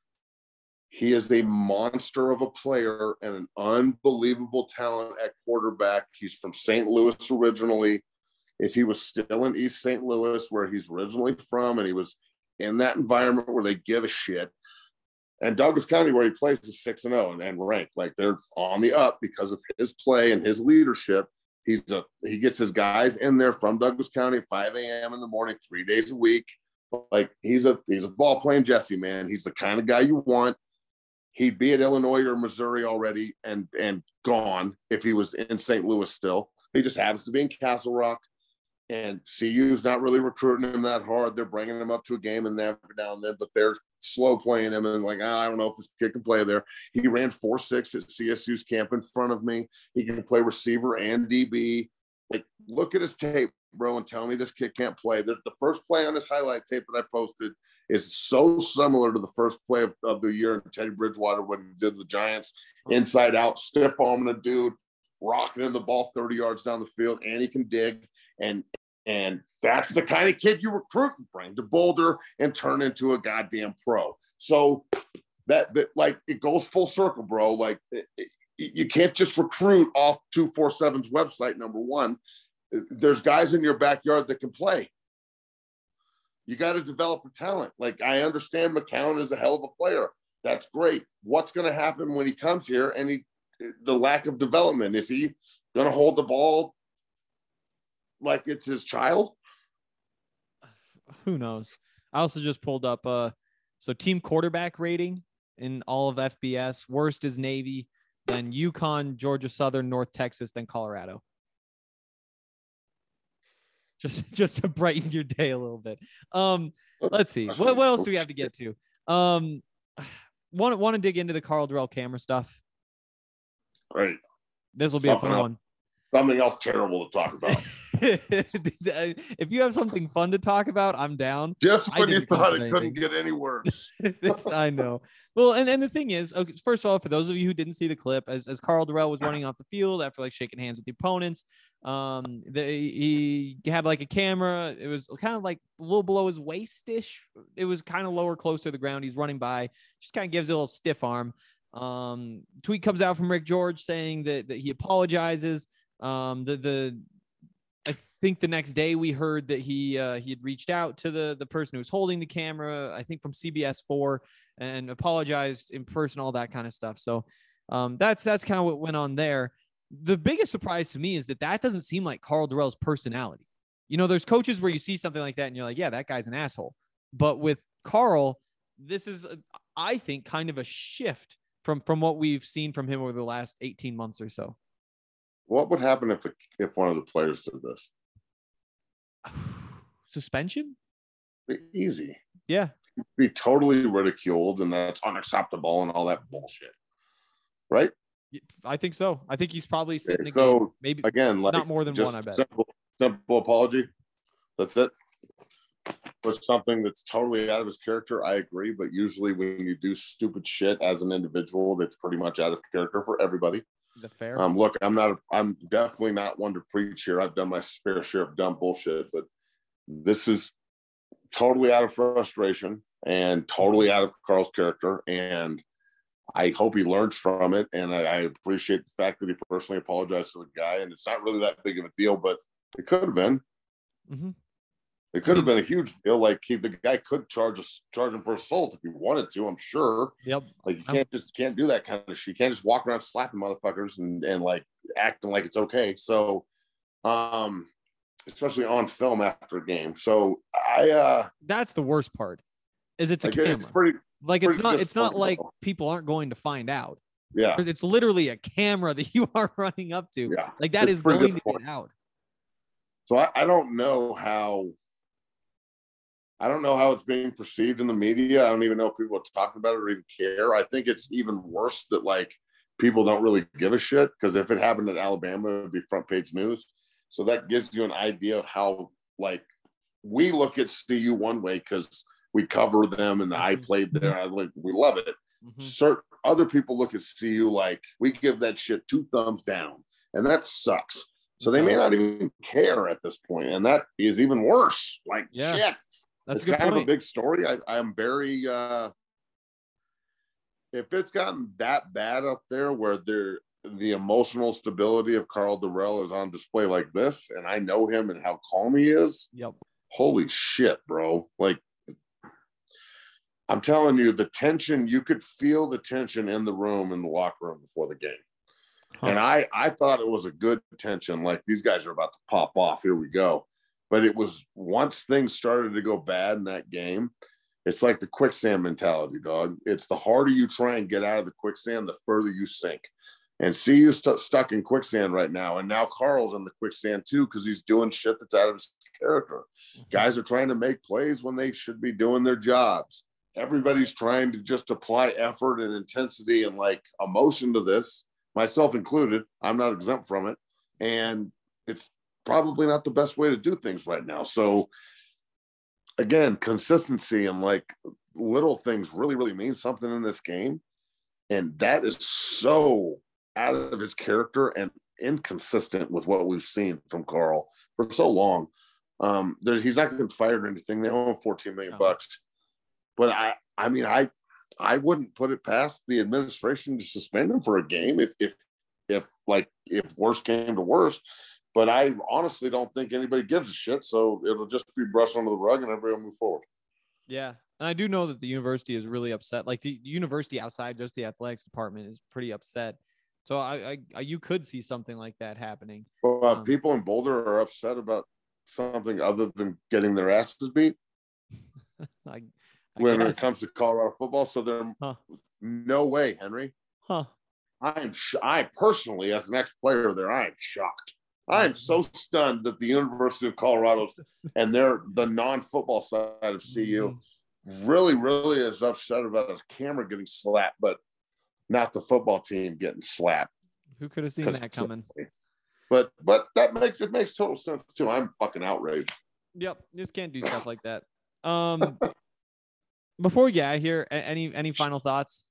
He is a monster of a player and an unbelievable talent at quarterback. He's from Saint Louis originally. If he was still in East Saint Louis, where he's originally from, and he was in that environment where they give a shit, and Douglas County, where he plays, is six and zero and, and ranked. Like they're on the up because of his play and his leadership. He's a he gets his guys in there from Douglas County at five a.m. in the morning, three days a week. Like he's a he's a ball playing Jesse, man. He's the kind of guy you want. He'd be at Illinois or Missouri already and and gone if he was in Saint Louis still. He just happens to be in Castle Rock. And C U's not really recruiting him that hard. They're bringing him up to a game and every now and then, but they're slow playing him and like, oh, I don't know if this kid can play there. He ran four six at C S U's camp in front of me. He can play receiver and D B. Like, look at his tape, bro, and tell me this kid can't play. There's the first play on this highlight tape that I posted is so similar to the first play of, of the year in Teddy Bridgewater when he did the Giants inside out, stiff arming a dude, rocketing the ball thirty yards down the field, and he can dig. And and that's the kind of kid you recruit and bring to Boulder and turn into a goddamn pro. So that, that like, it goes full circle, bro. Like, it, it, you can't just recruit off two forty-seven's website, number one. There's guys in your backyard that can play. You got to develop the talent. Like, I understand McCown is a hell of a player. That's great. What's going to happen when he comes here and he, the lack of development? Is he going to hold the ball like it's his child? Who knows? I also just pulled up uh so team quarterback rating in all of F B S. Worst is Navy, then UConn, Georgia Southern, North Texas, then Colorado. Just just to brighten your day a little bit. Um let's see. What, what else do we have to get to? Um want want to dig into the Karl Dorrell camera stuff? Great. This will be Something a fun else. one. Something else terrible to talk about. If you have something fun to talk about, I'm down. Just when you thought it anything. couldn't get any worse. I know. Well, and, and the thing is, okay, first of all, for those of you who didn't see the clip, as, as Karl Dorrell was running off the field after like shaking hands with the opponents, um, the, he had like a camera. It was kind of like a little below his waist-ish. It was kind of lower, closer to the ground. He's running by, just kind of gives it a little stiff arm. Um, tweet comes out from Rick George saying that, that he apologizes. Um, the, the, I think the next day we heard that he, uh, he had reached out to the, the person who was holding the camera, I think from C B S four, and apologized in person, all that kind of stuff. So, um, that's, that's kind of what went on there. The biggest surprise to me is that that doesn't seem like Karl Dorrell's personality. You know, there's coaches where you see something like that and you're like, yeah, that guy's an asshole. But with Karl, this is, I think, kind of a shift from, from what we've seen from him over the last eighteen months or so. What would happen if if one of the players did this? Suspension? Be easy. Yeah. Be totally ridiculed, and that's unacceptable and all that bullshit. Right? I think so. I think he's probably sitting okay, so maybe again, like, not more than one, I bet. Simple, simple apology. That's it. For something that's totally out of his character, I agree. But usually when you do stupid shit as an individual, that's pretty much out of character for everybody. The fair. Um, look, I'm not, I'm definitely not one to preach here. I've done my fair share of dumb bullshit, but this is totally out of frustration and totally out of Karl's character. And I hope he learns from it. And I, I appreciate the fact that he personally apologized to the guy. And it's not really that big of a deal, but it could have been. Mm-hmm. It could have been a huge deal. Like he, the guy could charge us, charge him for assault if he wanted to. I'm sure. Yep. Like you can't just can't do that kind of shit. You can't just walk around slapping motherfuckers and and like acting like it's okay. So, um, especially on film after a game. So I. uh That's the worst part. Is it's a like, camera. It's pretty. Like it's pretty not. It's not disappointing, like though. people aren't going to find out. Yeah. Because it's literally a camera that you are running up to. Yeah. Like that It's is pretty going to get disappointing. out. So I, I don't know how. I don't know how it's being perceived in the media. I don't even know if people are talking about it or even care. I think it's even worse that like people don't really give a shit, because if it happened in Alabama, it would be front page news. So that gives you an idea of how like we look at C U one way because we cover them and I played there. I like we love it. Mm-hmm. Certain other people look at C U like we give that shit two thumbs down, and that sucks. So they may not even care at this point, and that is even worse. Like Yeah. shit. That's It's a good kind point. of a big story. I, I'm very uh if it's gotten that bad up there where there the emotional stability of Carl Durrell is on display like this, and I know him and how calm he is. Yep. Holy shit, bro. Like I'm telling you, the tension, you could feel the tension in the room, in the locker room before the game. Huh. And I, I thought it was a good tension. Like these guys are about to pop off. Here we go. But it was once things started to go bad in that game, it's like the quicksand mentality, dog. It's the harder you try and get out of the quicksand, the further you sink. And C U's st- stuck in quicksand right now. And now Carl's in the quicksand too, because he's doing shit that's out of his character. Mm-hmm. Guys are trying to make plays when they should be doing their jobs. Everybody's trying to just apply effort and intensity and like emotion to this, myself included. I'm not exempt from it. And it's probably not the best way to do things right now. So again, consistency and like little things really, really mean something in this game. And that is so out of his character and inconsistent with what we've seen from Carl for so long. Um, there, he's not getting fired or anything. They owe him fourteen million bucks. But I, I mean, I, I wouldn't put it past the administration to suspend him for a game if, if, if like, if worst came to worst. But I honestly don't think anybody gives a shit. So it'll just be brushed under the rug and everybody will move forward. Yeah. And I do know that the university is really upset. Like the university outside just the athletics department is pretty upset. So I, I, I you could see something like that happening. Well, uh, Um, people in Boulder are upset about something other than getting their asses beat I, I when guess. it comes to Colorado football. So there, Huh. no way, Henry. Huh. I'm, sh- I personally, as an ex-player there, I am shocked. I am so stunned that the University of Colorado's and they're the non-football side of C U really, really is upset about a camera getting slapped, but not the football team getting slapped. Who could have seen that coming? But but that makes it makes total sense too. I'm fucking outraged. Yep. You just can't do stuff like that. Um, before we get out of here, a- any any final thoughts?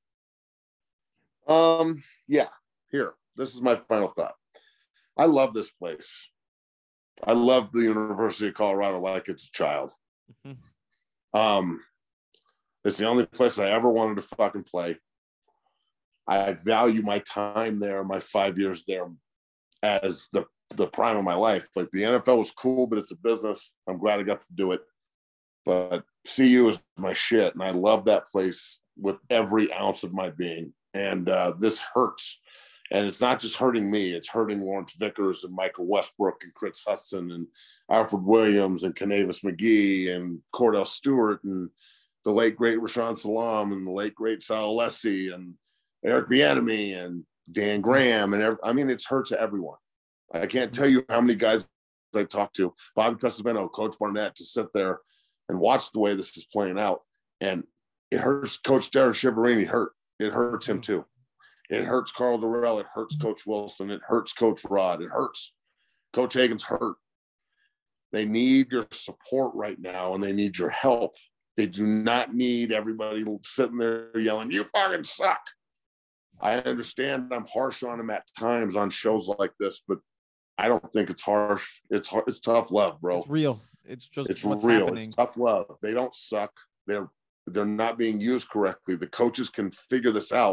Um, yeah, here. This is my final thought. I love this place. I love the University of Colorado like it's a child. Mm-hmm. Um, it's the only place I ever wanted to fucking play. I value my time there, my five years there, as the the prime of my life. Like the N F L was cool, but it's a business. I'm glad I got to do it. But C U is my shit, and I love that place with every ounce of my being. And uh, this hurts. And it's not just hurting me, it's hurting Lawrence Vickers and Michael Westbrook and Chris Hudson and Alfred Williams and Kanavis McGee and Cordell Stewart and the late, great Rashawn Salam and the late, great Sal Alessi and Eric Bieniemy and Dan Graham. And every, I mean, it's hurt to everyone. I can't tell you how many guys I talked to, Bobby Pesavento, Coach Barnett, to sit there and watch the way this is playing out. And it hurts Coach Darren Shiverini hurt. It hurts him too. It hurts Carl Durrell. It hurts Coach Wilson. It hurts Coach Rod. It hurts. Coach Hagan's hurt. They need your support right now, and they need your help. They do not need everybody sitting there yelling, "You fucking suck." I understand I'm harsh on them at times on shows like this, but I don't think it's harsh. It's hard. It's tough love, bro. It's real. It's just It's what's real. happening. It's tough love. They don't suck. They're they're not being used correctly. The coaches can figure this out.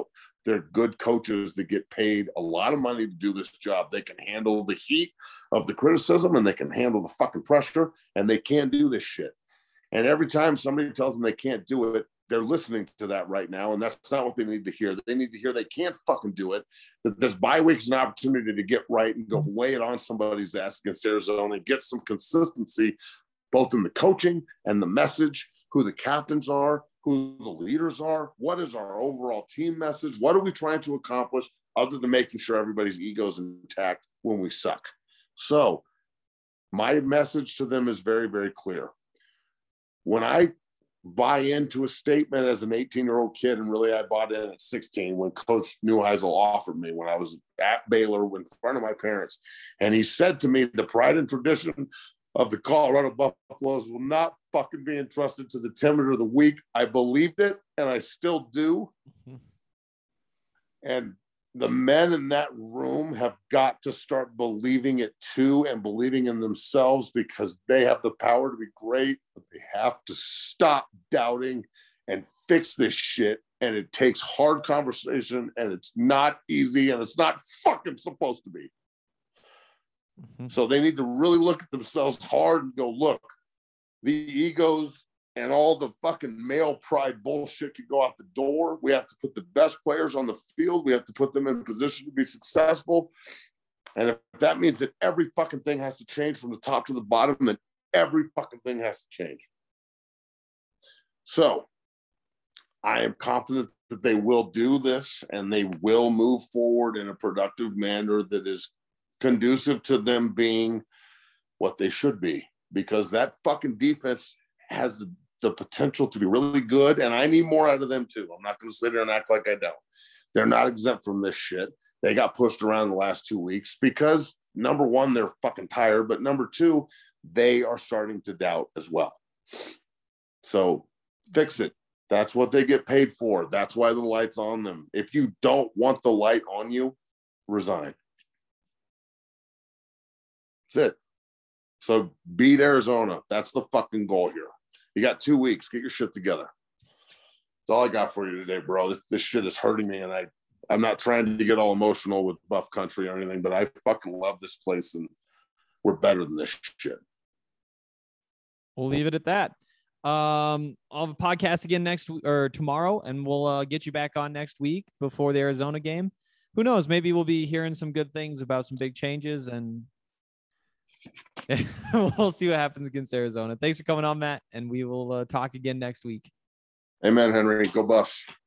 They're good coaches that get paid a lot of money to do this job. They can handle the heat of the criticism, and they can handle the fucking pressure, and they can do this shit. And every time somebody tells them they can't do it, they're listening to that right now, and that's not what they need to hear. They need to hear they can't fucking do it, that this bye week is an opportunity to get right and go lay it on somebody's ass against Arizona and get some consistency, both in the coaching and the message, who the captains are, who the leaders are, what is our overall team message, what are we trying to accomplish other than making sure everybody's ego is intact when we suck. So my message to them is very, very clear. When I buy into a statement as an eighteen-year-old kid, and really I bought in at sixteen when Coach Neuheisel offered me when I was at Baylor in front of my parents, and he said to me, the pride and tradition of the Colorado Buffaloes will not fucking be entrusted to the timid or the weak. I believed it, and I still do. Mm-hmm. And the men in that room have got to start believing it too, and believing in themselves, because they have the power to be great, but they have to stop doubting and fix this shit. And it takes hard conversation, and it's not easy, and it's not fucking supposed to be. Mm-hmm. So they need to really look at themselves hard and go, look, the egos and all the fucking male pride bullshit can go out the door. We have to put the best players on the field. We have to put them in position to be successful. And if that means that every fucking thing has to change from the top to the bottom, then every fucking thing has to change. So I am confident that they will do this, and they will move forward in a productive manner that is conducive to them being what they should be, because that fucking defense has the, the potential to be really good, and I need more out of them too. I'm not going to sit there and act like I don't. They're not exempt from this shit. They got pushed around the last two weeks because, number one, they're fucking tired, but number two, they are starting to doubt as well. So fix it. That's what they get paid for. That's why the light's on them. If you don't want the light on you, resign. That's it. So beat Arizona. That's the fucking goal here. You got two weeks. Get your shit together. That's all I got for you today, bro. This, this shit is hurting me, and I, I'm not trying to get all emotional with Buff Country or anything, but I fucking love this place, and we're better than this shit. We'll leave it at that. Um, I'll have a podcast again next week or tomorrow, and we'll uh, get you back on next week before the Arizona game. Who knows? Maybe we'll be hearing some good things about some big changes, and we'll see what happens against Arizona. Thanks for coming on, Matt, and we will uh, talk again next week. Amen, Henry. Go Buffs.